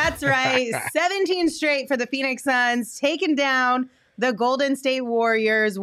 That's right. 17 straight for the Phoenix Suns, taking down the Golden State Warriors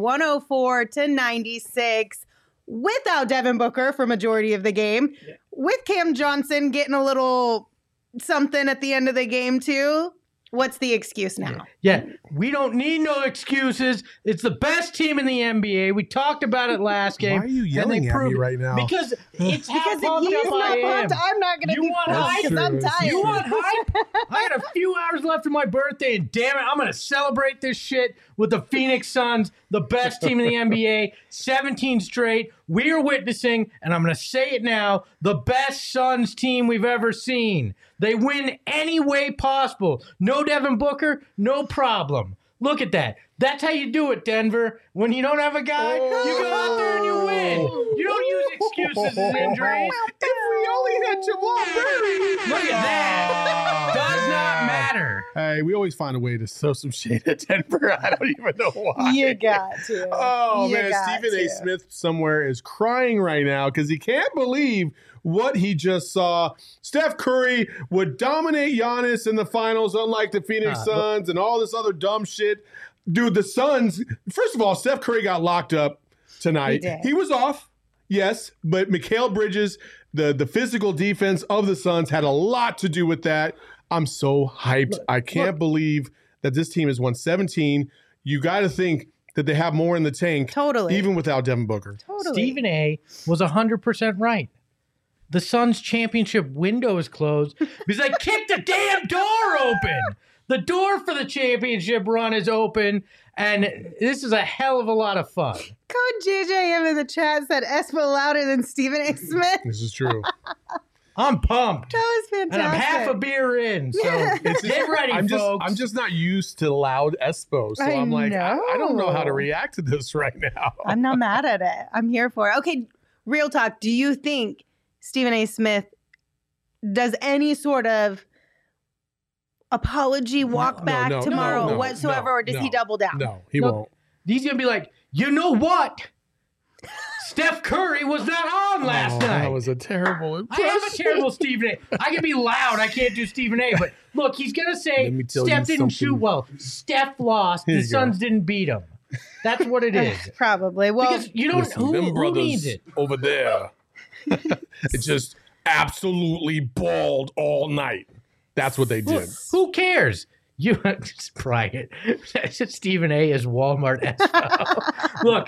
104-96 without Devin Booker for majority of the game, with Cam Johnson getting a little something at the end of the game too. What's the excuse now? Yeah, we don't need no excuses. It's the best team in the NBA. We talked about it last game. Why are you yelling at me right now? Because it's how Because if pumped he's up not I am. pumped, I'm not going to You be want pumped hype? because I'm tired. You want hype? I got a few hours left of my birthday, and damn it, I'm going to celebrate this shit with the Phoenix Suns, the best team in the NBA, 17 straight. We are witnessing, and I'm going to say it now, the best Suns team we've ever seen. They win any way possible. No Devin Booker, no problem. Look at that. That's how you do it, Denver. When you don't have a guy, you go out there and you win. You don't use excuses and injuries. If we only had Jamal Murray. Look at that. Does not matter. Hey, we always find a way to throw some shade at Denver. I don't even know why. You got to. Oh, You man. got Stephen A. to. Smith somewhere is crying right now because he can't believe what he just saw. Steph Curry would dominate Giannis in the finals, unlike the Phoenix Suns and all this other dumb shit. Dude, the Suns, first of all, Steph Curry got locked up tonight. He was off, yes, but Mikal Bridges, the physical defense of the Suns had a lot to do with that. I'm so hyped. I can't believe that this team has won 17. You got to think that they have more in the tank. Totally. Even without Devin Booker. Totally. Stephen A. was 100% right. The Suns' championship window is closed because they kicked the damn door open. The door for the championship run is open, and this is a hell of a lot of fun. Coach JJM in the chat said Espo louder than Stephen A. Smith. This is true. I'm pumped. That was fantastic. And I'm half a beer in, so get ready, folks. I'm just not used to loud Espo, so I'm like, I don't know how to react to this right now. I'm not mad at it. I'm here for it. Okay, real talk. Do you think Stephen A. Smith does any sort of apology, walk back tomorrow whatsoever, or does he double down? No, he won't. He's going to be like, you know what? Steph Curry was not on last night. That was a terrible impression. I am a terrible Stephen A. I can be loud. I can't do Stephen A. But look, he's going to say Steph didn't shoot well. Steph lost. The Suns didn't beat him. That's what it is. Probably. Well, because you don't. Who needs it over there? It just absolutely balled all night. That's what they did. Who cares? You Brian. Stephen A. is Walmart Espo. Look,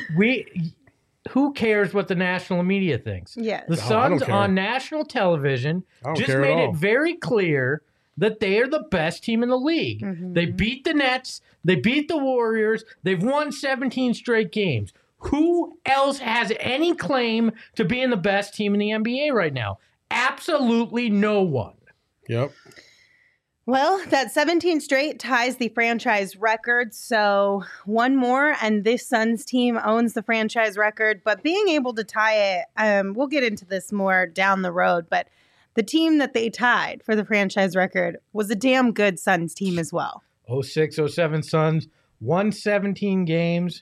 who cares what the national media thinks? Yes. The Suns on national television just made it very clear that they are the best team in the league. Mm-hmm. They beat the Nets. They beat the Warriors. They've won 17 straight games. Who else has any claim to being the best team in the NBA right now? Absolutely no one. Yep. Well, that 17 straight ties the franchise record. So one more, and this Suns team owns the franchise record. But being able to tie it, we'll get into this more down the road. But the team that they tied for the franchise record was a damn good Suns team as well. 06-07 Suns won 17 games.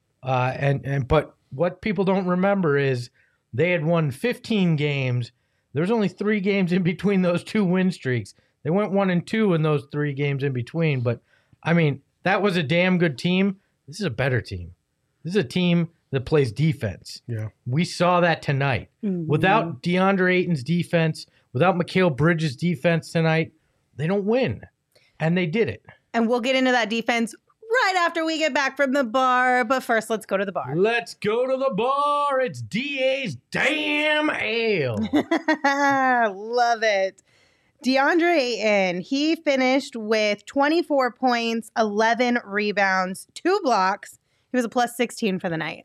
But what people don't remember is they had won 15 games. There's only 3 games in between those 2 win streaks. They went 1-2 in those 3 games in between. But, I mean, that was a damn good team. This is a better team. This is a team that plays defense. Yeah. We saw that tonight. Mm-hmm. Without DeAndre Ayton's defense, without Mikal Bridges' defense tonight, they don't win. And they did it. And we'll get into that defense right after we get back from the bar. But first, let's go to the bar. Let's go to the bar. It's DA's Damn Ale. Love it. DeAndre Ayton, he finished with 24 points, 11 rebounds, 2 blocks. He was a plus 16 for the night.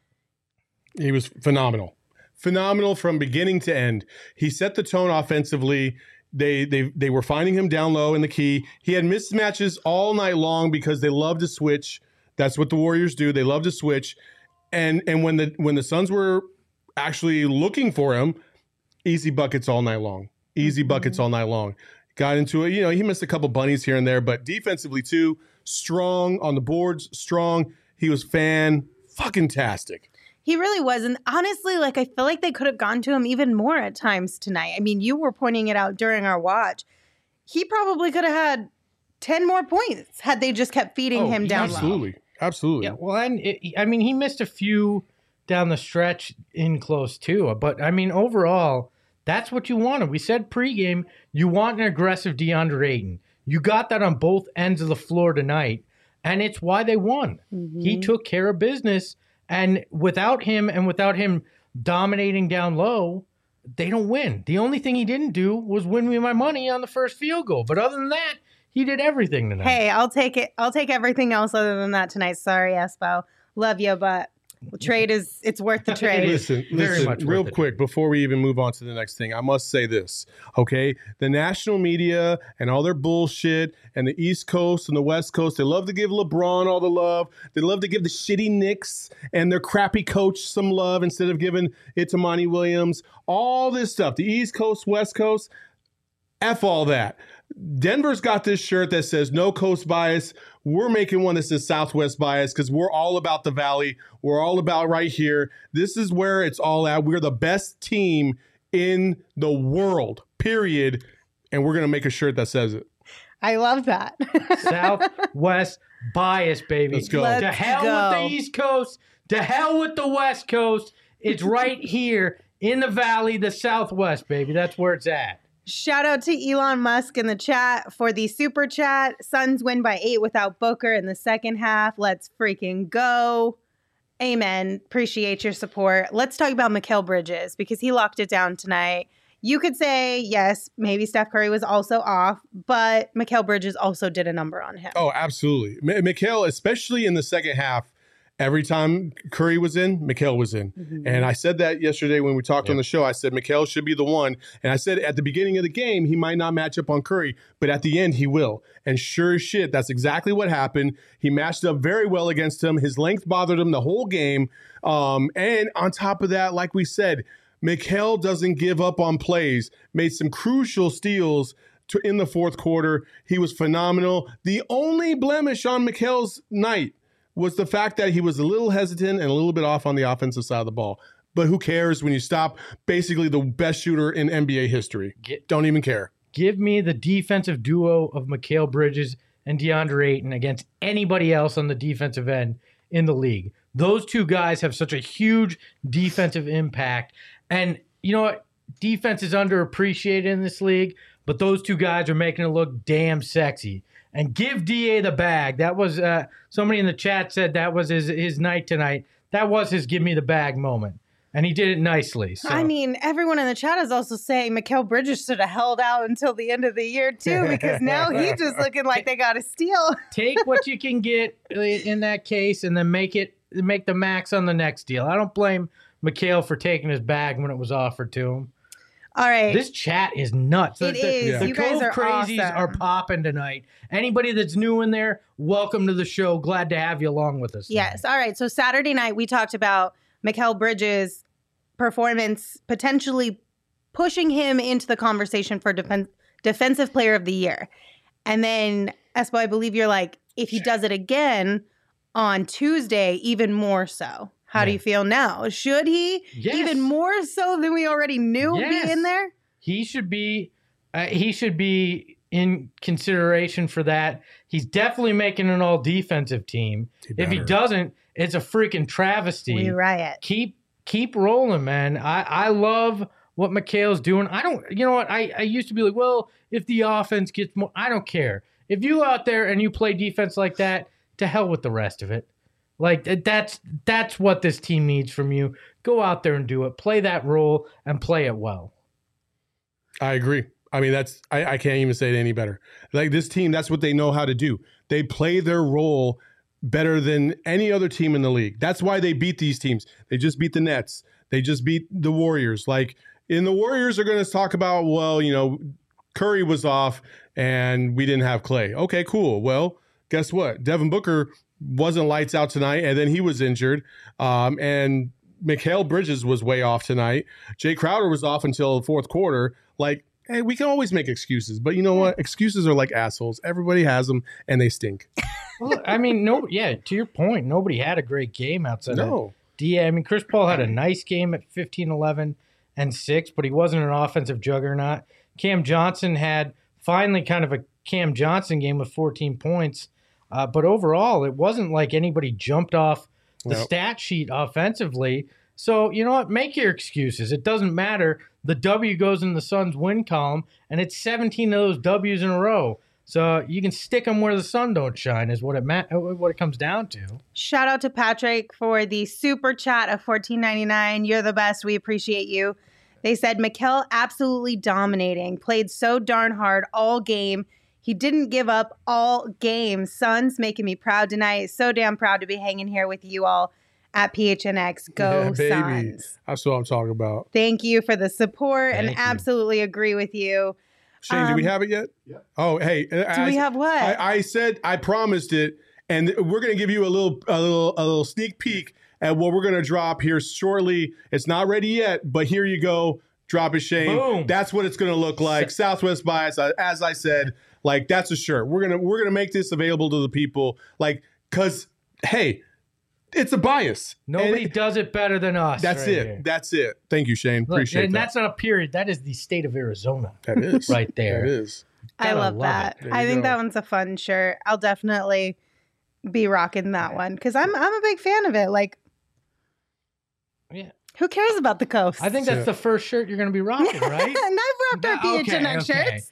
He was phenomenal. Phenomenal from beginning to end. He set the tone offensively. They were finding him down low in the key. He had mismatches all night long because they love to switch. That's what the Warriors do. They love to switch. And when the Suns were actually looking for him, easy buckets all night long. Easy buckets all night long. Got into it. You know, he missed a couple bunnies here and there, but defensively too, strong on the boards, strong. He was fucking-tastic. He really was. And honestly, like, I feel like they could have gone to him even more at times tonight. I mean, you were pointing it out during our watch. he probably could have had 10 more points had they just kept feeding him down low. Absolutely. Yeah, well, and he missed a few down the stretch in close too. But I mean, overall, that's what you wanted. We said pregame, you want an aggressive DeAndre Ayton. You got that on both ends of the floor tonight, and it's why they won. Mm-hmm. He took care of business, and without him dominating down low, they don't win. The only thing he didn't do was win me my money on the first field goal. But other than that, he did everything tonight. Hey, I'll take it. I'll take everything else other than that tonight. Sorry, Espo. Love you, but it's worth the trade. Listen, real quick, before we even move on to the next thing, I must say this, okay? The national media and all their bullshit and the East Coast and the West Coast, they love to give LeBron all the love. They love to give the shitty Knicks and their crappy coach some love instead of giving it to Monty Williams. All this stuff, the East Coast, West Coast, F all that. Denver's got this shirt that says no coast bias. We're making one that says Southwest bias because we're all about the Valley. We're all about right here. This is where it's all at. We're the best team in the world, period. And we're going to make a shirt that says it. I love that. Southwest bias, baby. Let's go. To hell with the East Coast. To hell with the West Coast. It's right here in the Valley, the Southwest, baby. That's where it's at. Shout out to Elon Musk in the chat for the super chat. Suns win by 8 without Booker in the second half. Let's freaking go. Amen. Appreciate your support. Let's talk about Mikal Bridges because he locked it down tonight. You could say, yes, maybe Steph Curry was also off, but Mikal Bridges also did a number on him. Oh, absolutely. Mikal, especially in the second half, every time Curry was in, Mikal was in. Mm-hmm. And I said that yesterday when we talked on the show. I said Mikal should be the one. And I said at the beginning of the game, he might not match up on Curry, but at the end, he will. And sure as shit, that's exactly what happened. He matched up very well against him. His length bothered him the whole game. And on top of that, like we said, Mikal doesn't give up on plays, made some crucial steals in the fourth quarter. He was phenomenal. The only blemish on Mikal's night was the fact that he was a little hesitant and a little bit off on the offensive side of the ball. But who cares when you stop basically the best shooter in NBA history? Don't even care. Give me the defensive duo of Mikal Bridges and DeAndre Ayton against anybody else on the defensive end in the league. Those two guys have such a huge defensive impact. And you know what? Defense is underappreciated in this league, but those two guys are making it look damn sexy. And give DA the bag. That was somebody in the chat said that was his night tonight. That was his give me the bag moment. And he did it nicely. So. I mean, everyone in the chat is also saying Mikal Bridges should have held out until the end of the year, too, because now he's just looking like they got a steal. Take what you can get in that case and then make the max on the next deal. I don't blame Mikal for taking his bag when it was offered to him. All right. This chat is nuts. It is. The you guys are Crazies awesome. are popping tonight. Anybody that's new in there, welcome to the show. Glad to have you along with us. Yes. All right. So Saturday night, we talked about Mikal Bridges' performance potentially pushing him into the conversation for Defensive Player of the Year. And then, Espo, I believe you're like, if he does it again on Tuesday, even more so. How do you feel now? Should he, even more so than we already knew, be in there? He should be in consideration for that. He's definitely making an all-defensive team. If he doesn't, it's a freaking travesty. We riot. Keep rolling, man. I love what Mikal's doing. You know what? I used to be like, well, if the offense gets more, I don't care. If you out there and you play defense like that, to hell with the rest of it. Like, that's what this team needs from you. Go out there and do it. Play that role and play it well. I agree. I mean, I can't even say it any better. Like, this team, that's what they know how to do. They play their role better than any other team in the league. That's why they beat these teams. They just beat the Nets. They just beat the Warriors. Like, and the Warriors are going to talk about, well, you know, Curry was off and we didn't have Clay. Okay, cool. Well, guess what? Devin Booker wasn't lights out tonight, and then he was injured. And Mikal Bridges was way off tonight. Jay Crowder was off until the fourth quarter. Like, hey, we can always make excuses, but you know what? Excuses are like assholes. Everybody has them, and they stink. Well, I mean, to your point, nobody had a great game outside of DA. I mean, Chris Paul had a nice game at 15, 11, and 6, but he wasn't an offensive juggernaut. Cam Johnson had finally kind of a Cam Johnson game with 14 points. But overall, it wasn't like anybody jumped off the stat sheet offensively. So, you know what? Make your excuses. It doesn't matter. The W goes in the Suns' win column, and it's 17 of those W's in a row. So you can stick them where the sun don't shine is what it comes down to. Shout out to Patrick for the super chat of $14.99. You're the best. We appreciate you. They said, Mikal absolutely dominating. Played so darn hard all game. He didn't give up all game. Suns making me proud tonight. So damn proud to be hanging here with you all at PHNX. Go Suns. That's what I'm talking about. Thank you for the support and absolutely agree with you. Shane, do we have it yet? Yeah. Oh, hey. Do we have what? I said I promised it, and we're going to give you a little sneak peek at what we're going to drop here shortly. It's not ready yet, but here you go. Drop it, Shane. Boom. That's what it's going to look like. Southwest Bias, as I said, like that's a shirt. We're gonna make this available to the people, like, cause hey, it's a bias. Nobody does it better than us. That's it. Here. That's it. Thank you, Shane. Look, Appreciate and that. that's not a period. That is the state of Arizona. That is right there. That is. I love that. I think that one's a fun shirt. I'll definitely be rocking that one because I'm a big fan of it. Like, yeah. Who cares about the coast? I think that's the first shirt you're going to be rocking, right? And I've rocked our PHNX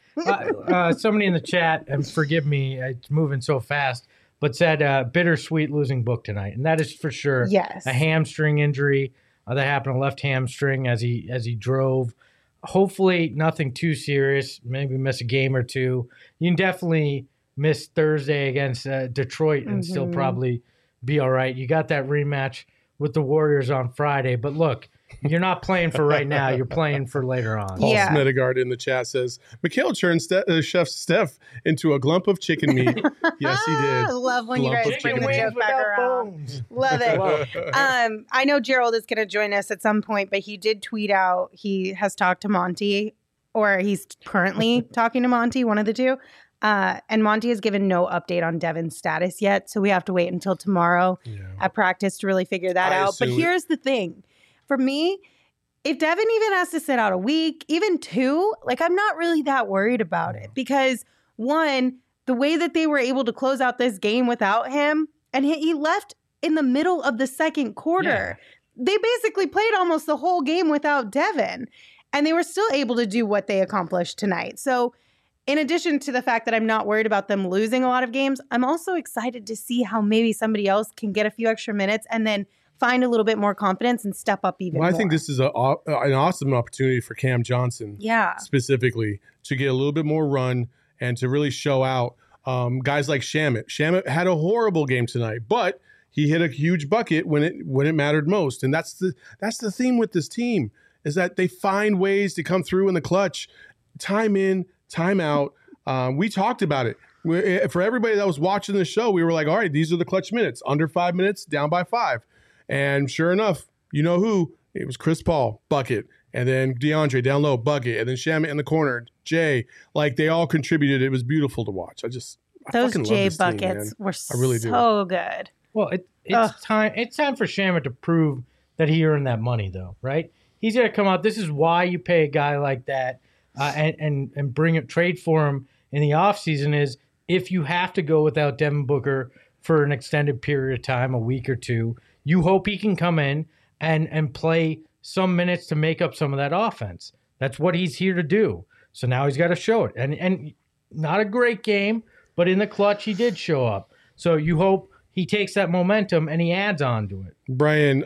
shirts. Somebody in the chat, and forgive me, it's moving so fast, but said bittersweet losing Book tonight. And that is for sure a hamstring injury that happened, a left hamstring as he drove. Hopefully nothing too serious, maybe miss a game or two. You can definitely miss Thursday against Detroit and still probably be all right. You got that rematch with the Warriors on Friday. But look, you're not playing for right now. You're playing for later on. Paul Smedegard in the chat says, Mikal turned Chef Steph into a glump of chicken meat. Yes, he did. I love when you guys bring the joke back around. Love it. I know Gerald is going to join us at some point, but he did tweet out he has talked to Monty, or he's currently talking to Monty, one of the two. And Monty has given no update on Devin's status yet, so we have to wait until tomorrow at practice to really figure that out. But here's the thing. For me, if Devin even has to sit out a week, even 2, like I'm not really that worried about it because, one, the way that they were able to close out this game without him, and he left in the middle of the second quarter. Yeah. They basically played almost the whole game without Devin, and they were still able to do what they accomplished tonight. So in addition to the fact that I'm not worried about them losing a lot of games, I'm also excited to see how maybe somebody else can get a few extra minutes and then find a little bit more confidence and step up even more. I think this is an awesome opportunity for Cam Johnson specifically to get a little bit more run and to really show out guys like Shamet. Shamet had a horrible game tonight, but he hit a huge bucket when it mattered most. And that's the theme with this team is that they find ways to come through in the clutch, time in, time out. We talked about it. For everybody that was watching the show, we were like, all right, these are the clutch minutes. Under 5 minutes, down by 5. And sure enough, you know who? It was Chris Paul, bucket. And then DeAndre down low, bucket. And then Shamet in the corner, Jay. Like, they all contributed. It was beautiful to watch. Those Jay buckets were so good. Well, it's time. It's time for Shamet to prove that he earned that money, though, right? He's going to come out. This is why you pay a guy like that and bring a trade for him in the offseason is if you have to go without Devin Booker for an extended period of time, a week or two, you hope he can come in and play some minutes to make up some of that offense. That's what he's here to do. So now he's got to show it. And not a great game, but in the clutch, he did show up. So you hope he takes that momentum and he adds on to it. Brian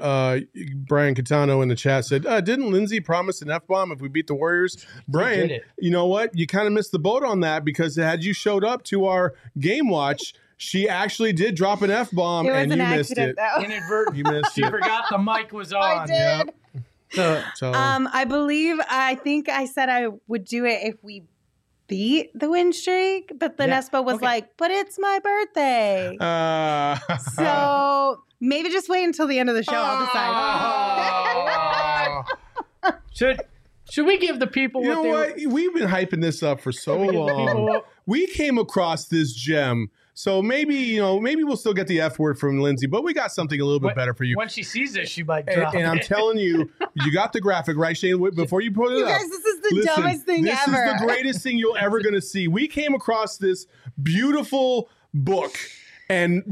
Catano in the chat said, didn't Lindsay promise an F-bomb if we beat the Warriors? Brian, you know what? You kind of missed the boat on that because had you showed up to our game watch, she actually did drop an F-bomb and you missed it. Inadvertent. You missed it. She forgot the mic was on. I did. Yep. So, I think I said I would do it if we beat the win streak, but then Espo was like, but it's my birthday. So maybe just wait until the end of the show. I'll decide. Should we give the people what we've been hyping this up for so long. We came across this gem. So maybe we'll still get the F word from Lindsay, but we got something a little bit better for you. When she sees this, she might drop and I'm telling you, you got the graphic, right, Shane? Before you put it up. Guys, this is the dumbest thing this ever. This is the greatest thing you're ever going to see. We came across this beautiful book. And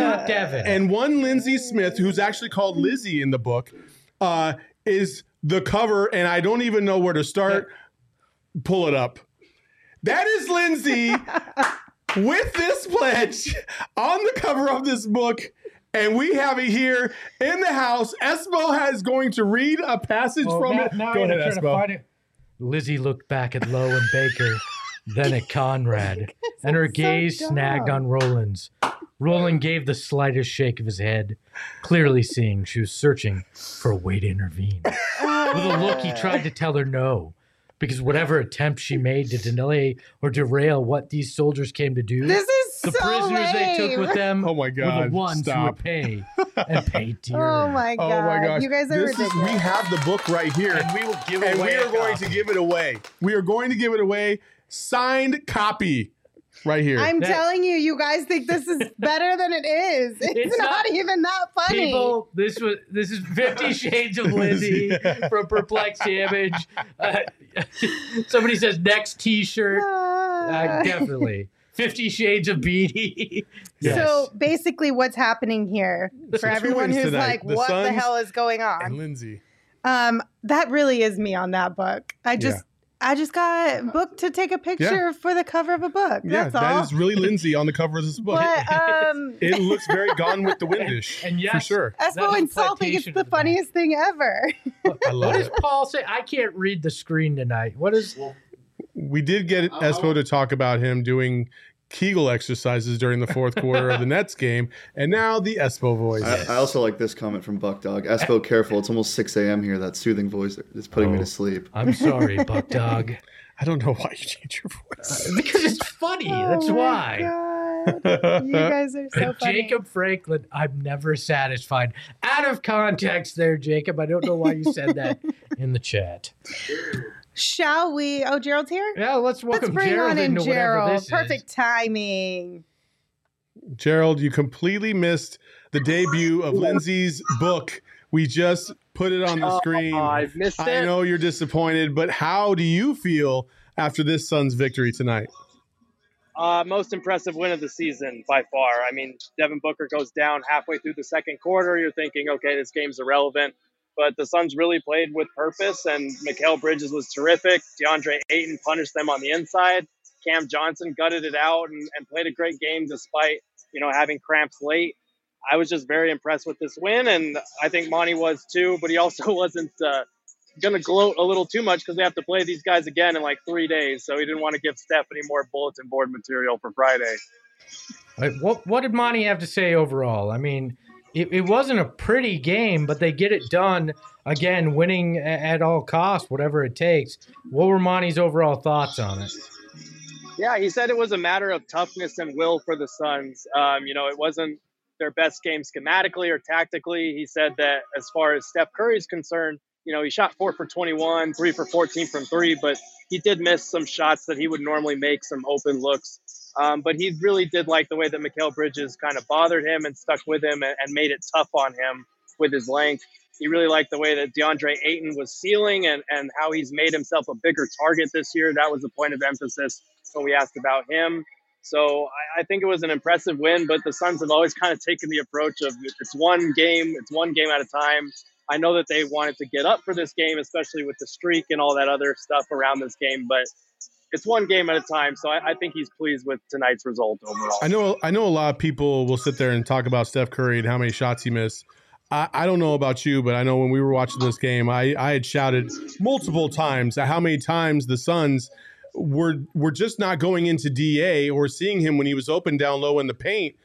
one Lindsay Smith, who's actually called Lizzie in the book, is the cover, and I don't even know where to start. Pull it up. That is Lindsay with this pledge on the cover of this book, and we have it here in the house. Espo is going to read a passage from it. Now Go ahead, Espo. Lizzie looked back at Lowe and Baker, then at Conrad, and her gaze snagged on Roland's. Roland gave the slightest shake of his head, clearly seeing she was searching for a way to intervene. With a look, he tried to tell her no, because whatever attempt she made to delay or derail what these soldiers came to do, this is the so prisoners they took with them were the ones who would pay and pay dearly. Oh my god! Oh my gosh! You guys are ridiculous. We have the book right here, And we will give it and away. we are going to give it away. We are going to give it away, signed copy, right here. I'm telling you, you guys think this is better than it is. It's not even that funny. People, this is 50 Shades of Lizzie from Perplexed Damage. Somebody says next T-shirt. Definitely 50 Shades of Beatty. Yes. So basically, what's happening here for everyone who's tonight. like, "What the hell is going and on?" Lindsay. That really is me on that book. I just got booked to take a picture for the cover of a book. That's all. That is really Lindsay on the cover of this book. But it looks very Gone with the Windish, and yes, for sure. Espo and Salt think it's the funniest thing ever. I love What does it. Paul say? I can't read the screen tonight. What is? We did get Espo to talk about him doing Kegel exercises during the fourth quarter of the Nets game, and now the Espo voice. I also like this comment from Buck Dog. Espo, careful. It's almost 6 a.m. here. That soothing voice is putting me to sleep. I'm sorry, Buck Dog. I don't know why you change your voice. Because it's funny. That's why. God. You guys are so funny. Jacob Franklin, I'm never satisfied. Out of context there, Jacob. I don't know why you said that in the chat. Shall we? Oh, Gerald's here? Yeah, let's welcome bring Gerald on in into whatever Gerald. this Perfect timing. Gerald, you completely missed the debut of Lindsay's book. We just put it on the screen. I've missed it. I know you're disappointed, but how do you feel after this Suns victory tonight? Most impressive win of the season by far. I mean, Devin Booker goes down halfway through the second quarter. You're thinking, okay, this game's irrelevant. But the Suns really played with purpose, and Mikal Bridges was terrific. DeAndre Ayton punished them on the inside. Cam Johnson gutted it out and played a great game despite, having cramps late. I was just very impressed with this win, and I think Monty was too, but he also wasn't going to gloat a little too much because they have to play these guys again in like 3 days, so he didn't want to give Steph any more bulletin board material for Friday. What did Monty have to say overall? I mean, it wasn't a pretty game, but they get it done, again, winning at all costs, whatever it takes. What were Monty's overall thoughts on it? Yeah, he said it was a matter of toughness and will for the Suns. It wasn't their best game schematically or tactically. He said that as far as Steph Curry's concerned, he shot 4 for 21, 3 for 14 from 3, but he did miss some shots that he would normally make, some open looks. But he really did like the way that Mikal Bridges kind of bothered him and stuck with him and made it tough on him with his length. He really liked the way that DeAndre Ayton was sealing and how he's made himself a bigger target this year. That was a point of emphasis when we asked about him. So I think it was an impressive win, but the Suns have always kind of taken the approach of it's one game at a time. I know that they wanted to get up for this game, especially with the streak and all that other stuff around this game, but it's one game at a time. So I think he's pleased with tonight's result overall. I know a lot of people will sit there and talk about Steph Curry and how many shots he missed. I don't know about you, but I know when we were watching this game, I had shouted multiple times at how many times the Suns were just not going into DA or seeing him when he was open down low in the paint.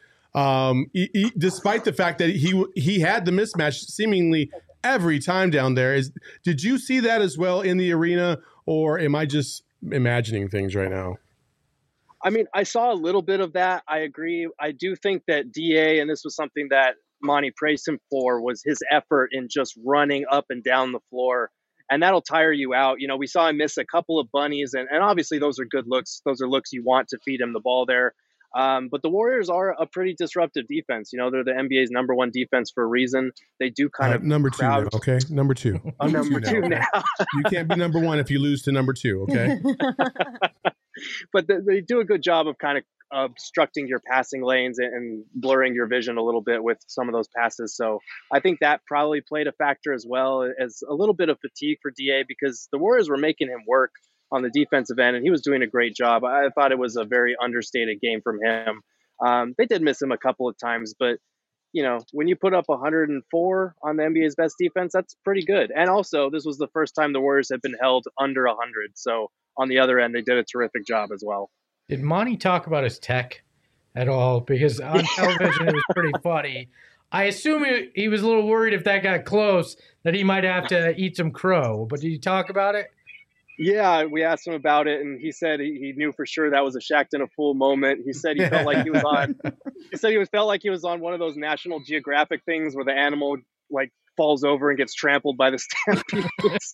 Despite the fact that he had the mismatch seemingly every time down there. Did you see that as well in the arena, or am I just imagining things right now? I mean, I saw a little bit of that. I agree. I do think that DA, and this was something that Monty praised him for, was his effort in just running up and down the floor. And that'll tire you out. We saw him miss a couple of bunnies, and obviously those are good looks. Those are looks you want to feed him the ball there. But the Warriors are a pretty disruptive defense. You know, they're the NBA's #1 defense for a reason. They do kind of number 2 now, okay? Number 2. Number two now. You can't be number 1 if you lose to number 2, okay? But they do a good job of kind of obstructing your passing lanes and blurring your vision a little bit with some of those passes. So I think that probably played a factor as well as a little bit of fatigue for DA, because the Warriors were making him work on the defensive end, and he was doing a great job. I thought it was a very understated game from him. They did miss him a couple of times, but you know, when you put up 104 on the NBA's best defense, that's pretty good. And also, this was the first time the Warriors had been held under 100. So on the other end, they did a terrific job as well. Did Monty talk about his tech at all? Because on television, it was pretty funny. I assume he was a little worried if that got close that he might have to eat some crow. But did you talk about it? Yeah, we asked him about it, and he said he knew for sure that was a Shaqtin' a Fool moment. He said he felt like he was on. He said he felt like he was on one of those National Geographic things where the animal like falls over and gets trampled by the stampede.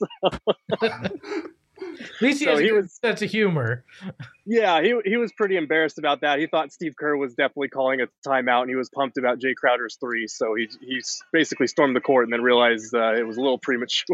At least he has a good sense of humor. Yeah, he was pretty embarrassed about that. He thought Steve Kerr was definitely calling a timeout, and he was pumped about Jay Crowder's 3. So he basically stormed the court and then realized it was a little premature.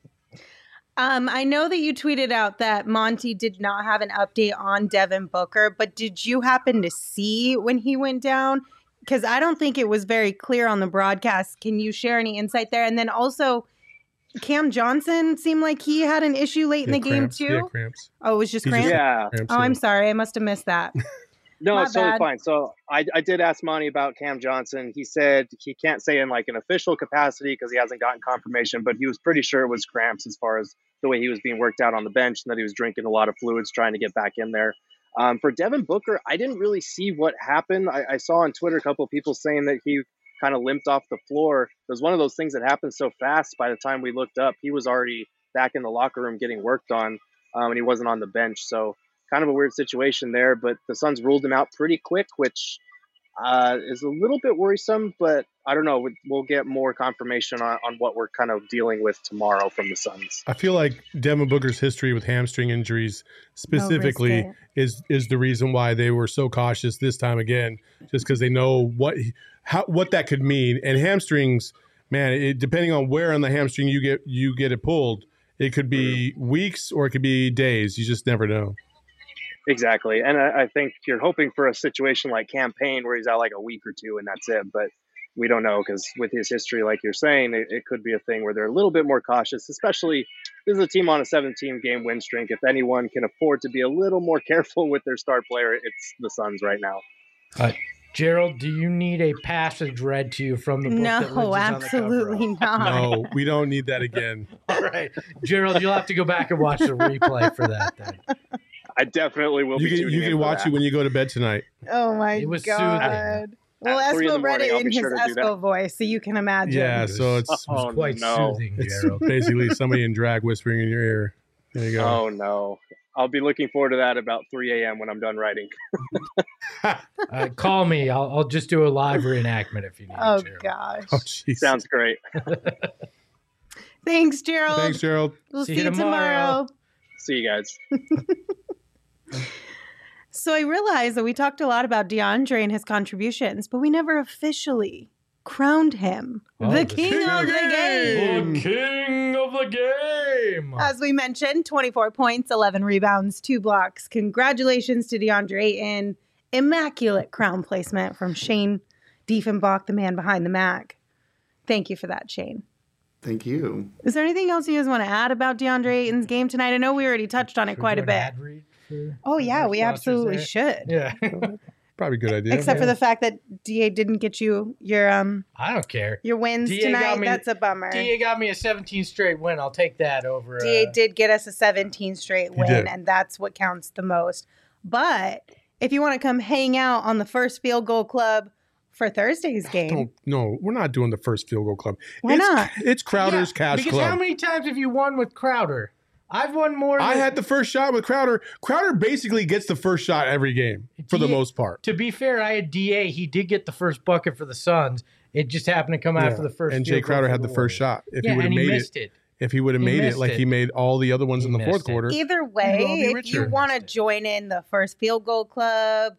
I know that you tweeted out that Monty did not have an update on Devin Booker, but did you happen to see when he went down? Because I don't think it was very clear on the broadcast. Can you share any insight there? And then also, Cam Johnson seemed like he had an issue late in the game too. Yeah, cramps. Oh, it was just cramps? Yeah. Oh, I'm sorry. I must have missed that. No, My it's totally bad. fine. So I did ask Monty about Cam Johnson. He said he can't say in like an official capacity because he hasn't gotten confirmation, but he was pretty sure it was cramps as far as the way he was being worked out on the bench and that he was drinking a lot of fluids trying to get back in there. For Devin Booker, I didn't really see what happened. I saw on Twitter a couple of people saying that he kind of limped off the floor. It was one of those things that happened so fast. By the time we looked up, he was already back in the locker room getting worked on, and he wasn't on the bench. So kind of a weird situation there, but the Suns ruled him out pretty quick, which is a little bit worrisome, but I don't know. We'll get more confirmation on what we're kind of dealing with tomorrow from the Suns. I feel like Devin Booker's history with hamstring injuries specifically is the reason why they were so cautious this time again, just because they know what that could mean. And hamstrings, man, depending on where on the hamstring you get it pulled, it could be weeks or it could be days. You just never know. Exactly. And I think you're hoping for a situation like Cam Payne where he's out like a week or two and that's it. But we don't know because with his history, like you're saying, it could be a thing where they're a little bit more cautious, especially this is a team on a 17-game win streak. If anyone can afford to be a little more careful with their star player, it's the Suns right now. Gerald, do you need a passage read to you from the book? No, absolutely not. No, we don't need that again. All right. Gerald, you'll have to go back and watch the replay for that then. I definitely will. You can watch it when you go to bed tonight. Oh my It was God! soothing. Well, At 3 in the Espo read morning, it I'll in be his sure to do Espo voice, so you can imagine. Yeah, so it's Quite soothing, it's Gerald. basically somebody in drag whispering in your ear. There you go. Oh no! I'll be looking forward to that about 3 a.m. when I'm done writing. Call me. I'll just do a live reenactment if you need. Oh Gerald. gosh! Oh, jeez. Sounds great. Thanks, Gerald. Thanks, Gerald. We'll see you tomorrow. See you guys. So I realized that we talked a lot about DeAndre and his contributions, but we never officially crowned him the king of the game. The king of the game. As we mentioned, 24 points, 11 rebounds, 2 blocks. Congratulations to DeAndre Ayton. Immaculate crown placement from Shane Diefenbach, the man behind the Mac. Thank you for that, Shane. Thank you. Is there anything else you guys want to add about DeAndre Ayton's game tonight? I know we already touched on it quite a bit. Oh, yeah, we absolutely should. Yeah. Probably a good idea. Except for the fact that DA didn't get you your I don't care. your wins DA tonight. got me- That's a bummer. DA got me a 17 straight win. I'll take that over. DA did get us a 17 straight win, did. and that's what counts the most. But if you want to come hang out on the First Field Goal Club for Thursday's game, No, we're not doing the first field goal club. Why not? It's Crowder's Cash because Club. how many times have you won with Crowder? I've won more. I had the first shot with Crowder. Crowder basically gets the first shot every game for the most part. To be fair, I had DA. He did get the first bucket for the Suns. It just happened to come after the first. And Jay field goal Crowder for had the first Warriors. shot. If Yeah, he would have and he made missed it, if he would have He made it missed like it. he made all the other ones He in the missed fourth it. quarter, either You'll all way, be if richer. you want to join in the First Field Goal Club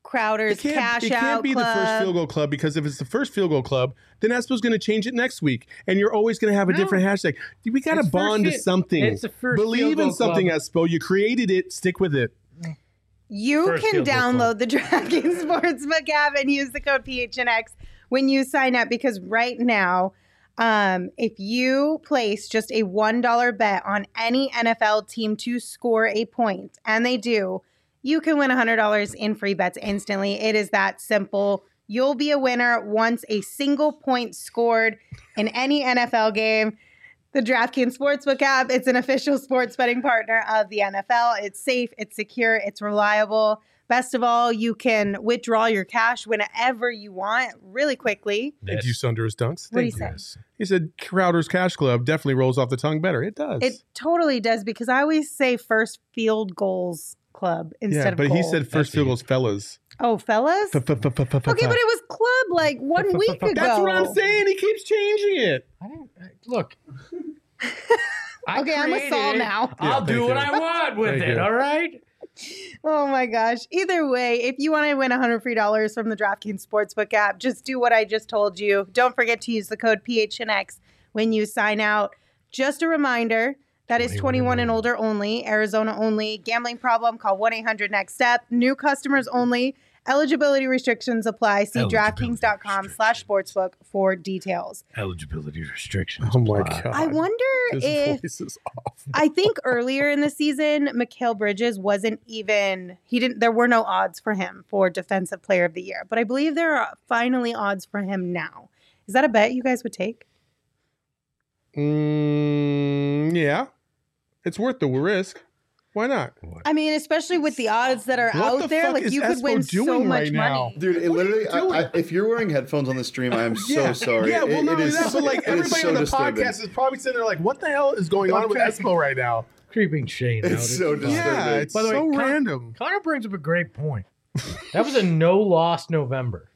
Crowder's Cash it Out can't be Club. the first field goal club, because if it's the first field goal club, then Espo's going to change it next week, and you're always going to have a different hashtag. We got to It's bond to first something. It's the first Believe field in goal something, club. Espo. You created it. Stick with it. You First can field goal club. download the DraftKings Sportsbook app and use the code PHNX when you sign up, because right now, if you place just a $1 bet on any NFL team to score a point, and they do, you can win $100 in free bets instantly. It is that simple. You'll be a winner once a single point scored in any NFL game. The DraftKings Sportsbook app, it's an official sports betting partner of the NFL. It's safe, it's secure, it's reliable. Best of all, you can withdraw your cash whenever you want really quickly. Thank you, Sunder's Dunks. What do you Thank say? He said Crowder's Cash Club definitely rolls off the tongue better. It does. It totally does, because I always say first field goals club instead yeah, of but goal. he said first field goals, fellas. Oh, fellas? Okay, but it was club like 1 week ago. That's what I'm saying. He keeps changing it. Look. Okay, I'm with Saul now. I'll do what I want with it, all right? Oh my gosh. Either way, if you want to win $100 free from the DraftKings Sportsbook app, just do what I just told you. Don't forget to use the code PHNX when you sign out. Just a reminder, that is 21 and older only, Arizona only. Gambling problem, call 1-800-NEXT-STEP. New customers only. Eligibility restrictions apply. See DraftKings.com/sportsbook for details. Eligibility restrictions. Oh my God. I wonder His if voice is off. I think earlier in the season, Mikal Bridges wasn't even there were no odds for him for Defensive Player of the Year. But I believe there are finally odds for him now. Is that a bet you guys would take? Yeah. It's worth the risk. Why not? I mean, especially with the odds that are What the out there, fuck like is you could Espo win so doing much right now? money. Dude, it literally, if you're wearing headphones on the stream, I am so sorry. Yeah, well, it not only is, that, but like it is everybody so on the disturbing. podcast is probably sitting there like, what the hell is going on with Espo right now? Creeping Shane out. It's so disturbing. Yeah, it's By the way, so random. Connor brings up a great point. That was a no-loss November.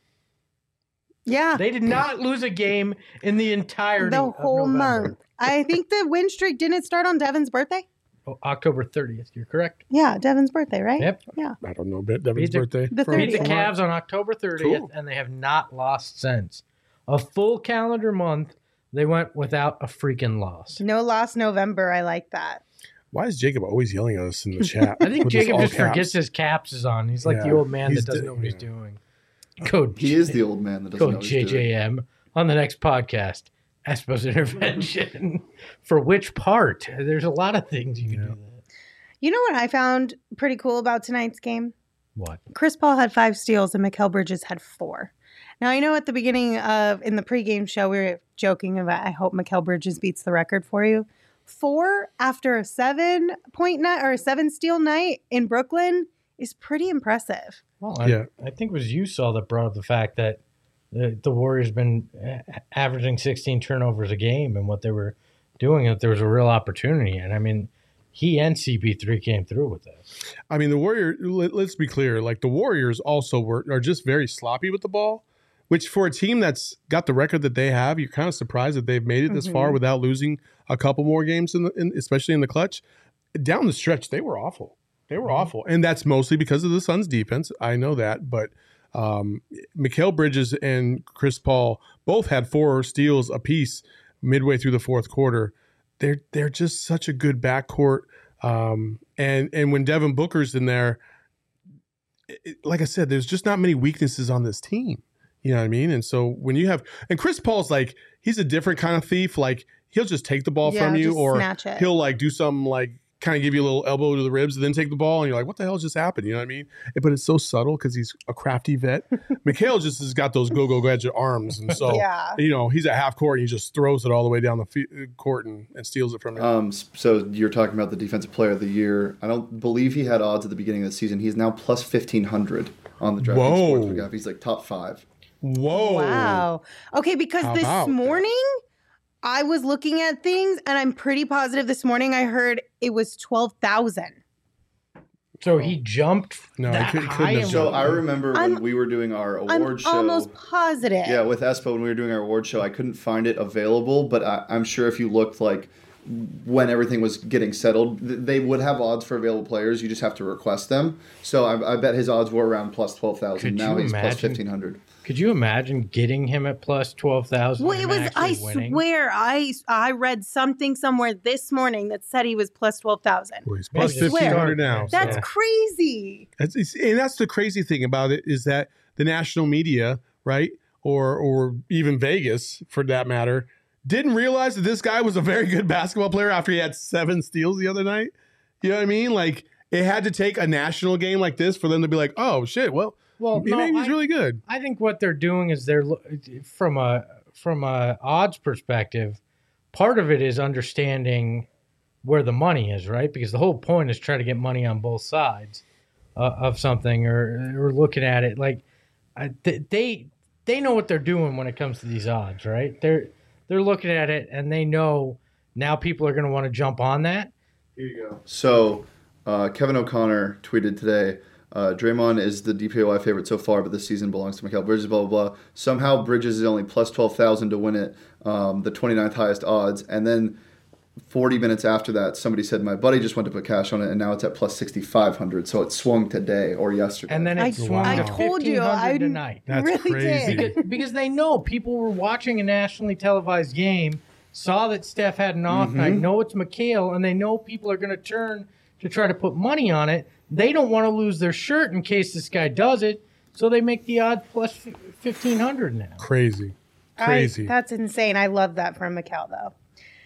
Yeah, They did not lose a game in the entirety the of whole November. month. I think the win streak didn't start on Devin's birthday. Oh, October 30th, you're correct. Yeah, Devin's birthday, right? Yep. Yeah. I don't know, Devin's Beat the- birthday. the From- Beat the 30th. Cavs on October 30th, Cool. and they have not lost since. A full calendar month, they went without a freaking loss. No loss November. I like that. Why is Jacob always yelling at us in the chat? I think with his Jacob all just caps? forgets his caps is on. He's like the Yeah, old man that he's doesn't the- know what he's yeah. doing. Code He is the old man that doesn't know Code what he's doing. JJM on the next podcast. Espo's intervention. For which part? There's a lot of things you can do that. You know what I found pretty cool about tonight's game? What? Chris Paul had 5 steals and Mikal Bridges had 4. Now, I know at the beginning in the pregame show, we were joking about, I hope Mikal Bridges beats the record for you. 4 after a 7-point night or a 7-steal night in Brooklyn is pretty impressive. Well, Yeah. I think it was you, Saul, that brought up the fact that the Warriors been averaging 16 turnovers a game, and what they were doing, that there was a real opportunity. And I mean, he and CP3 came through with that. I mean, the Warriors, let's be clear, like the Warriors also are just very sloppy with the ball, which for a team that's got the record that they have, you're kind of surprised that they've made it this far without losing a couple more games, especially in the clutch. Down the stretch, they were awful. They were awful. And that's mostly because of the Suns' defense. I know that. But Mikal Bridges and Chris Paul both had 4 steals apiece midway through the fourth quarter. They're just such a good backcourt. And when Devin Booker's in there, like I said, there's just not many weaknesses on this team. You know what I mean? And so when you have – and Chris Paul's like – he's a different kind of thief. Like he'll just take the ball from you, just or snatch it. he'll like do something like kind of give you a little elbow to the ribs and then take the ball, and you're like, what the hell just happened? You know what I mean? But it's so subtle because he's a crafty vet. Mikal just has got those go gadget arms, and so Yeah. you know he's at half court and he just throws it all the way down the court and steals it from him. So you're talking about the defensive player of the year. I don't believe he had odds at the beginning of the season. He's now plus 1,500 on the DraftKings Whoa. Sportsbook app. He's like top 5. Whoa! Wow. Okay, because How this about morning I was looking at things and I'm pretty positive this morning I heard it was 12,000. So he jumped No, that he couldn't high have and So done I remember when I'm- we were doing our award I'm show. almost positive. Yeah, with Espo when we were doing our award show, I couldn't find it available, but I'm sure if you looked like when everything was getting settled, they would have odds for available players. You just have to request them. So I bet his odds were around plus 12,000. Now he's plus 1,500. Could you imagine getting him at plus 12,000? Well, it was. I swear, I read something somewhere this morning that said he was plus 12,000. Well, he's plus I swear. 1,500 now. That's so. crazy. And that's the crazy thing about it is that the national media, right, or even Vegas, for that matter, didn't realize that this guy was a very good basketball player after he had 7 steals the other night. You know what I mean? Like, it had to take a national game like this for them to be like, oh, shit, well maybe he's really good. I think what they're doing is from a odds perspective, part of it is understanding where the money is, right? Because the whole point is try to get money on both sides of something, or looking at it like they know what they're doing when it comes to these odds, right? They're looking at it and they know now people are going to want to jump on that. Here you go. So Kevin O'Connor tweeted today, Draymond is the DPOY favorite so far, but this season belongs to Mikal Bridges, blah, blah, blah. Somehow Bridges is only plus 12,000 to win it, the 29th highest odds. And then 40 minutes after that, somebody said, my buddy just went to put cash on it, and now it's at plus 6,500. So it swung today or yesterday. And then it swung I to told you, 1,500 tonight. That's really crazy. did. Because they know people were watching a nationally televised game, saw that Steph had an off night, know it's Mikal, and they know people are going to turn to try to put money on it. They don't want to lose their shirt in case this guy does it, so they make the odds plus 1,500 now. Crazy. That's insane. I love that from Mikal, though.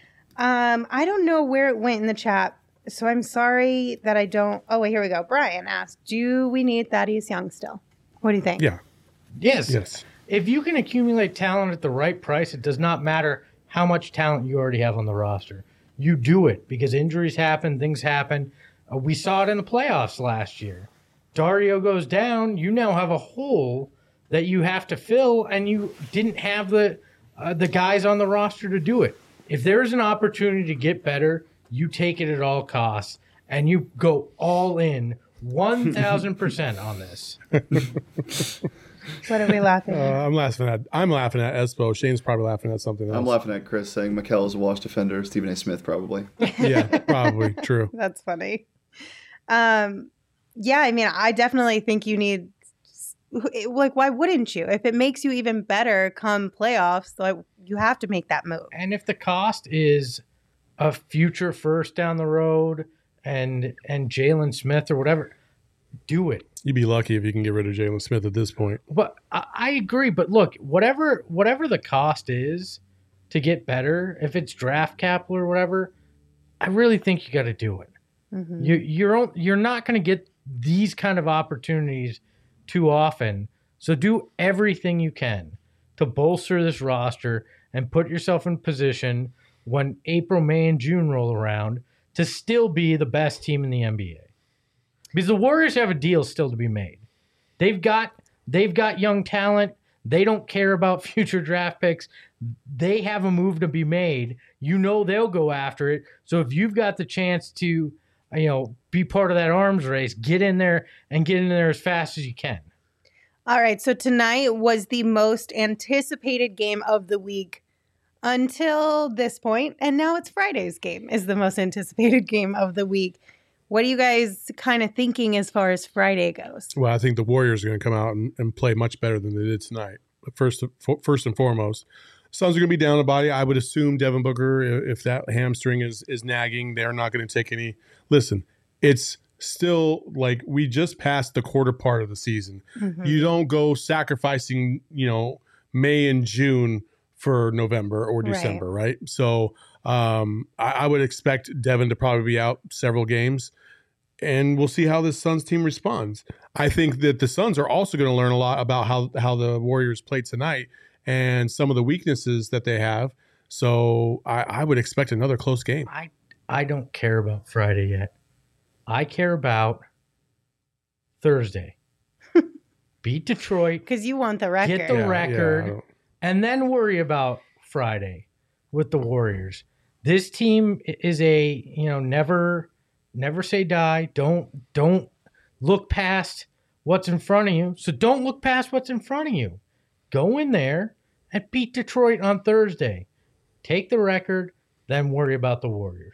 I don't know where it went in the chat, so I'm sorry that I don't. Oh, wait, here we go. Brian asked, do we need Thaddeus Young still? What do you think? Yeah. Yes. If you can accumulate talent at the right price, it does not matter how much talent you already have on the roster. You do it because injuries happen, things happen. We saw it in the playoffs last year. Dario goes down. You now have a hole that you have to fill, and you didn't have the guys on the roster to do it. If there's an opportunity to get better, you take it at all costs, and you go all in 1,000% on this. What are we laughing at? I'm laughing at Espo. Shane's probably laughing at something else. I'm laughing at Chris saying Mikal is a wash defender. Stephen A. Smith probably. Yeah, probably. True. That's funny. Yeah, I mean, I definitely think you need, like, why wouldn't you? If it makes you even better come playoffs, like, you have to make that move. And if the cost is a future first down the road and Jalen Smith or whatever, do it. You'd be lucky if you can get rid of Jalen Smith at this point. But I agree. But look, whatever the cost is to get better, if it's draft capital or whatever, I really think you got to do it. Mm-hmm. You're not going to get these kind of opportunities too often. So do everything you can to bolster this roster and put yourself in position when April, May, and June roll around to still be the best team in the NBA. Because the Warriors have a deal still to be made. They've got young talent. They don't care about future draft picks. They have a move to be made. You know they'll go after it. So if you've got the chance to, be part of that arms race, get in there as fast as you can. All right. So tonight was the most anticipated game of the week until this point, and now it's Friday's game is the most anticipated game of the week. What are you guys kind of thinking as far as Friday goes? Well, I think the Warriors are going to come out and play much better than they did tonight. But first and foremost, Suns are going to be down the body. I would assume Devin Booker, if that hamstring is nagging, they're not going to take any. Listen, it's still like we just passed the quarter part of the season. Mm-hmm. You don't go sacrificing, May and June for November or December, right? So I would expect Devin to probably be out several games, and we'll see how this Suns team responds. I think that the Suns are also going to learn a lot about how the Warriors played tonight and some of the weaknesses that they have. So I would expect another close game. I don't care about Friday yet. I care about Thursday. Beat Detroit. Because you want the record. Get the record. And then worry about Friday with the Warriors. This team is a, never say die. Don't look past what's in front of you. So don't look past what's in front of you. Go in there and beat Detroit on Thursday. Take the record, then worry about the Warriors.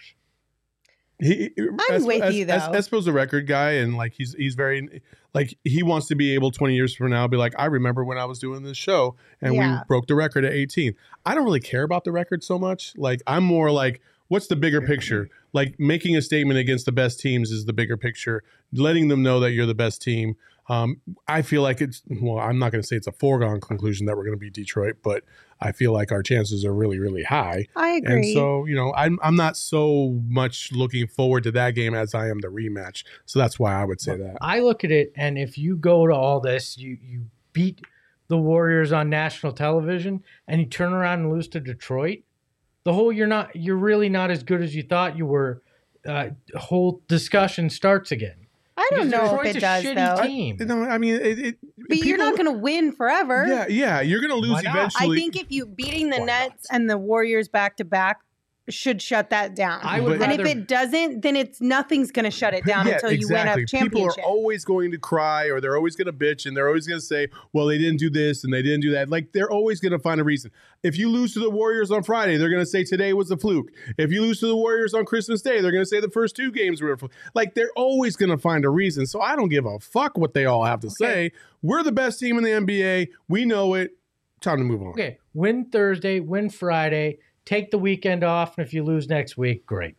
I'm with you, though. Espo's a record guy, and like he's very like he wants to be able 20 years from now be like, I remember when I was doing this show and we broke the record at 18. I don't really care about the record so much. Like I'm more like, what's the bigger picture? Like making a statement against the best teams is the bigger picture. Letting them know that you're the best team. I feel like I'm not going to say it's a foregone conclusion that we're going to beat Detroit, but I feel like our chances are really, really high. I agree. And so, I'm not so much looking forward to that game as I am the rematch. So that's why I would say that. I look at it, and if you go to all this, you beat the Warriors on national television, and you turn around and lose to Detroit, you're really not as good as you thought you were. Whole discussion starts again. I don't know if it does, though. Team. No, I mean, but you're not going to win forever. Yeah, you're going to lose eventually. I think if you beating the Nets and the Warriors back to back should shut that down. And if it doesn't, then nothing's going to shut it down until you win a championship. People are always going to cry, or they're always going to bitch, and they're always going to say, well, they didn't do this and they didn't do that. Like, they're always going to find a reason. If you lose to the Warriors on Friday, they're going to say today was a fluke. If you lose to the Warriors on Christmas Day, they're going to say the first two games were a fluke. Like, they're always going to find a reason. So I don't give a fuck what they all have to say. We're the best team in the NBA. We know it. Time to move on. Okay, win Thursday, win Friday. Take the weekend off, and if you lose next week, great.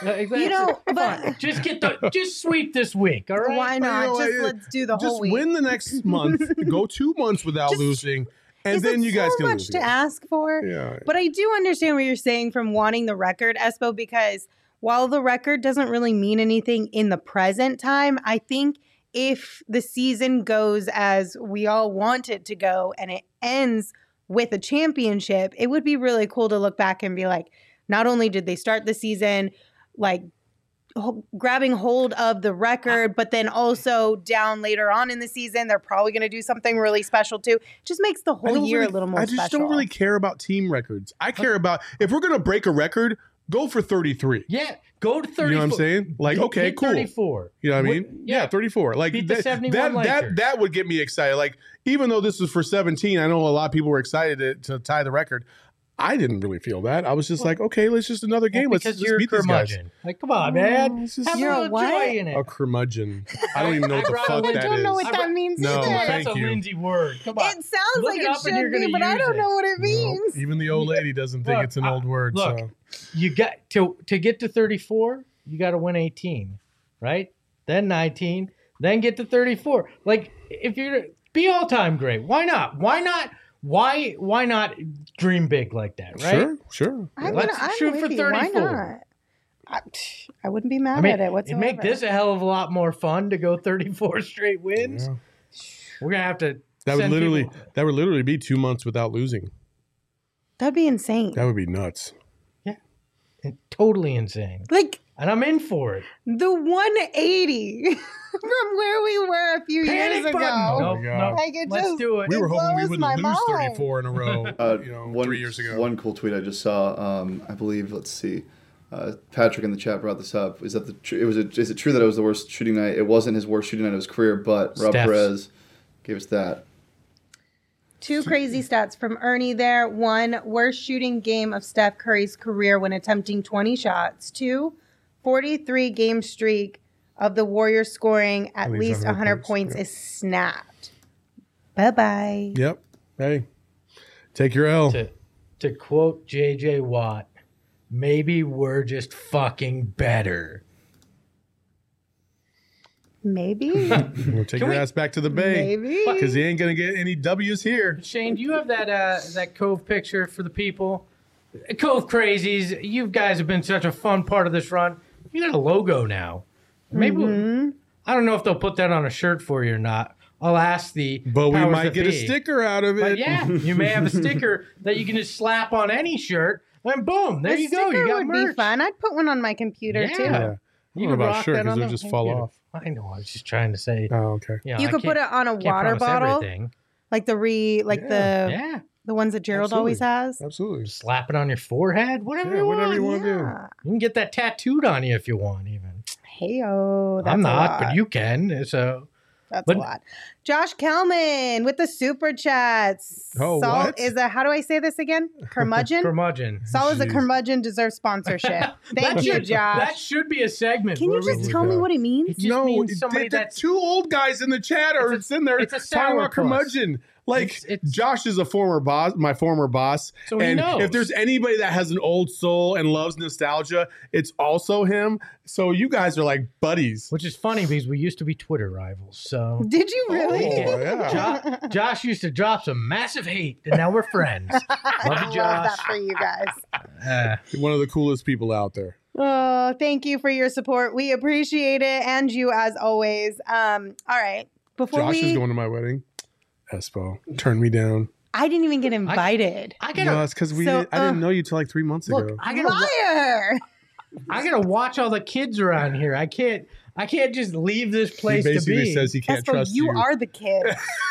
But just sweep this week, all right? Why not? Let's do the whole week. Just win the next month. Go 2 months without losing, and then you guys can lose. So much to ask for. Yeah. But I do understand what you're saying from wanting the record, Espo, because while the record doesn't really mean anything in the present time, I think if the season goes as we all want it to go and it ends with a championship, it would be really cool to look back and be like, not only did they start the season like grabbing hold of the record, but then also down later on in the season, they're probably going to do something really special too. It just makes the whole year a little more special. I just don't really care about team records. I care about, if we're going to break a record, go for 33. Yeah, go to 34. You know what I'm saying? Like, okay, cool. 34. You know what I mean? Yeah, 34. Like beat the 71 Lakers. That would get me excited. Like, even though this was for 17, I know a lot of people were excited to tie the record. I didn't really feel that. I was just like, okay, let's just another game. Let's just beat these guys. Like, come on, man. Have you're a little joy in it. A curmudgeon. I don't even know what the fuck that is. I don't know what that means no, either. Thank That's you. a Lindsay word. Come on. It sounds like it should be, but I don't know what it means. No, even the old lady doesn't think it's an old word. Look, so. You got to get to 34, you got to win 18, right? Then 19, then get to 34. Like, if you're be all-time great, why not? Why not dream big like that, right? Sure. Let's shoot for 34. Why not? I wouldn't be mad at it whatsoever. It'd make this a hell of a lot more fun to go 34 straight wins. Yeah. We're gonna have to. That would literally be 2 months without losing. That'd be insane. That would be nuts. Yeah, totally insane. Like, and I'm in for it. The 180 from where we were a few years ago. No. Like, Let's do it. We were hoping we wouldn't lose mind. 34 in a row. 3 years ago. One cool tweet I just saw. I believe. Let's see. Patrick in the chat brought this up. Is it true that it was the worst shooting night? It wasn't his worst shooting night of his career, but Rob Perez gave us that. 2 crazy stats from Ernie there. 1, worst shooting game of Steph Curry's career when attempting 20 shots. 2, 43 game streak of the Warriors scoring at least 100 points is snapped. Bye-bye. Yep. Hey, take your L. To quote J.J. Watt, maybe we're just fucking better. Maybe. We'll take your ass back to the Bay. Maybe. Because he ain't going to get any W's here. Shane, do you have that Cove picture for the people? Cove Crazies, you guys have been such a fun part of this run. You got a logo now. Maybe I don't know if they'll put that on a shirt for you or not. I'll ask the But we powers might that get a be. sticker out of it. But yeah, you may have a sticker that you can just slap on any shirt, and boom, there you go. You got would merch. be fun. I'd put one on my computer too. Yeah. I don't know about shirt because they'll just fall off. I know. I was just trying to say. Oh, okay. You could put it on a water bottle, everything. like the ones that Gerald always has. Absolutely. Slap it on your forehead, whatever you want. Whatever you want to do. You can get that tattooed on you if you want, even. Hey-o. I'm not, but you can. So That's But- a lot. Josh Kelman with the super chats. Oh, Saul what? is a, how do I say this again? Curmudgeon? Curmudgeon. Saul is a Jeez. curmudgeon, deserves sponsorship. Thank That you, should- Josh. That should be a segment. Can you where we- just tell me what it means? It just means somebody the that's two old guys in the chat are It's a- sitting there it's a talking about sourpuss. curmudgeon. Like It's- Josh is a former boss, my former boss, So he and knows. if there's anybody that has an old soul and loves nostalgia, it's also him. So you guys are like buddies. Which is funny because we used to be Twitter rivals. So Did you really? Oh, yeah. Josh used to drop some massive hate, and now we're friends. Love I you, love Josh. that for you guys. One of the coolest people out there. Oh, thank you for your support. We appreciate it, and you as always. All right. Before Josh we, is going to my wedding. Espo, turn me down. I didn't even get invited. I No, gotta it's because So, I didn't know you till like 3 months look. ago. I gotta. Liar! I gotta watch all the kids around here. I can't just leave this He place to basically be. says he can't Espo, trust you you. are the kid.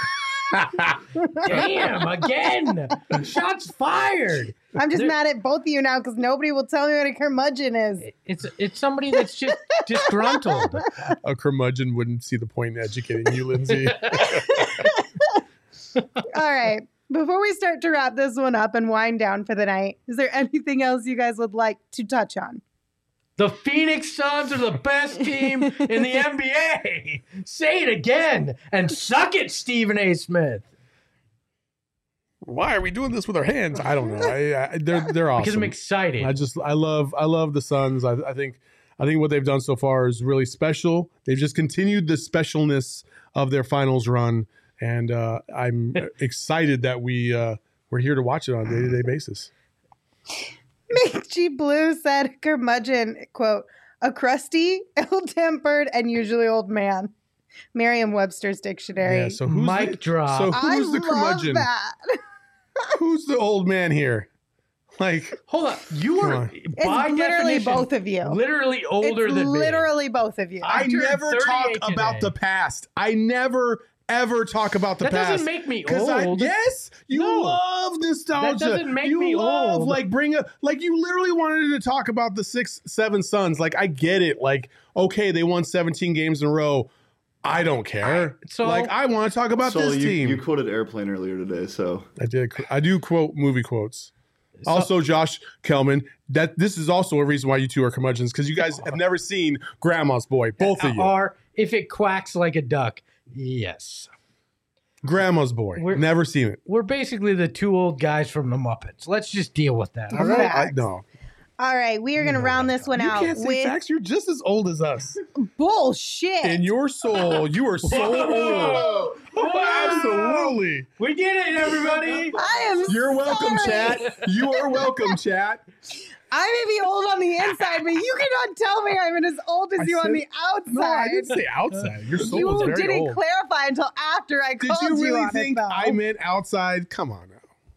Damn! Again, shots fired. I'm just There- mad at both of you now because nobody will tell me what a curmudgeon is. It's somebody that's just disgruntled. A curmudgeon wouldn't see the point in educating you, Lindsay. All right. Before we start to wrap this one up and wind down for the night, is there anything else you guys would like to touch on? The Phoenix Suns are the best team in the NBA. Say it again and suck it, Stephen A. Smith. Why are we doing this with our hands? I don't know. They're awesome. Because I'm excited. I love the Suns. I think what they've done so far is really special. They've just continued the specialness of their finals run, and I'm excited that we're here to watch it on a day-to-day basis. Mick G. Blue said, curmudgeon, quote, a crusty, ill-tempered, and usually old man. Merriam-Webster's dictionary. Yeah. So who's Mic drop. So I who's the love curmudgeon? that. Who's the old man here? Like, Hold on. You Come are on. It's by literally definition, both of you. literally older it's than me. literally both of you. I I turned never 38 talk about today. the past. I never ever talk about the That past. doesn't make me 'Cause old. yes, you No. love nostalgia. That doesn't make you me love, old. Like like you literally wanted to talk about the 6-7 Suns. Like I get it. Like okay, they won 17 games in a row. I don't care. Like I want to talk about So this team. you quoted Airplane earlier today, so I do quote movie quotes. Also, Josh Kelman, that this is also a reason why you two are curmudgeons because you guys have never seen Grandma's Boy, both of you. Or if it quacks like a duck, yes. Grandma's Boy, never seen it. We're basically the two old guys from the Muppets. Let's just deal with that. All right. Facts. No, All right, we are going to round this one you out can't say with facts. You're just as old as us. bullshit. In your soul, you are so old. Absolutely. We did it, everybody. I am You're welcome, sorry. chat. You are welcome, chat. I may be old on the inside, but you cannot tell me I'm as old as I you on said- the outside. No, I didn't say outside. Your soul you is very didn't old. clarify until after I Did called you really on think it, though. I meant outside? Come on now.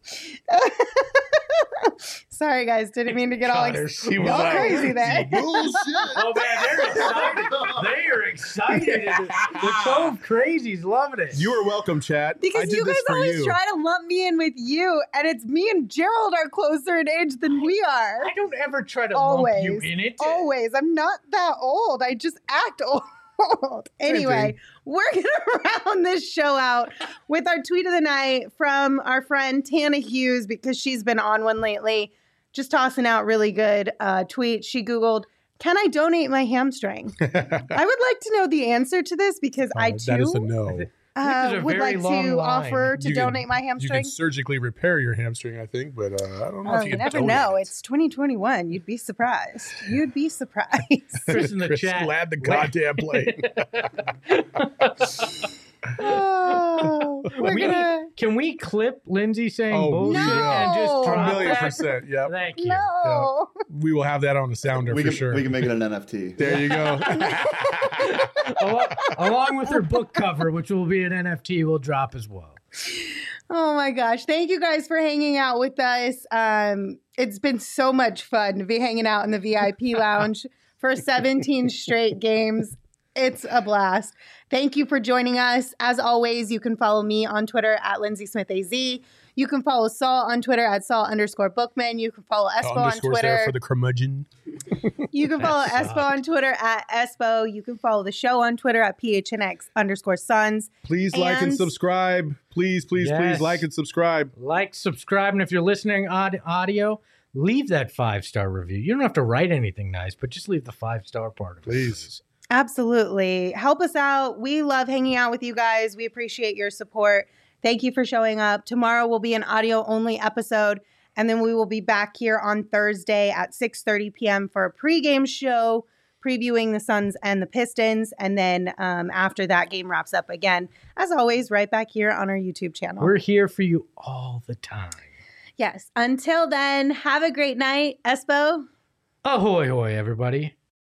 Sorry, guys. Didn't mean to get all She was all like, crazy there. Bullshit. Oh man, they're excited. They are excited. The Cove Crazies loving it. You are welcome, chat. I Because did you guys this for always you. try to lump me in with you, and it's me and Gerald are closer in age than we are. I don't ever try to Always. lump you in it. Always. I'm not that old. I just act old. Anyway, we're going to round this show out with our tweet of the night from our friend Tana Hughes because she's been on one lately. Just tossing out really good tweets. She Googled, can I donate my hamstring? I would like to know the answer to this because I too That is a no. This is a would very like long to line. offer to You can- donate my You hamstring. can surgically repair your hamstring, I think, but I don't know Oh, if you you can never donate know. it. It's 2021. You'd be surprised. You'd be surprised. Chris in the Chris, chat. Lad the goddamn plate. Oh, we're gonna. Can we clip Lindsay saying Oh, bullshit no. and just A drop that? 1,000,000%. Yep. Thank you. No. We will have that on the sounder we for can sure. we can make it an NFT. There you go. Along with her book cover, which will be an NFT, will drop as well. Oh my gosh. Thank you guys for hanging out with us. It's been so much fun to be hanging out in the VIP lounge for 17 straight games. It's a blast. Thank you for joining us. As always, you can follow me on Twitter at Lindsay Smith AZ. You You can follow Saul on Twitter at Saul_Bookman. You can follow Espo on Underscores Twitter. there for the curmudgeon. You can follow Espo on Twitter at Espo. You can follow the show on Twitter at PHNX_Suns. Please like and subscribe. Please Yes. like and subscribe. Like, subscribe, and if you're listening audio, leave that 5-star review. You don't have to write anything nice, but just leave the 5-star part of it. Please. Absolutely. Help us out. We love hanging out with you guys. We appreciate your support. Thank you for showing up. Tomorrow will be an audio-only episode, and then we will be back here on Thursday at 6:30 p.m. for a pregame show previewing the Suns and the Pistons. And then after that game wraps up again, as always, right back here on our YouTube channel. We're here for you all the time. Yes. Until then, have a great night. Espo. Ahoy, hoy, everybody.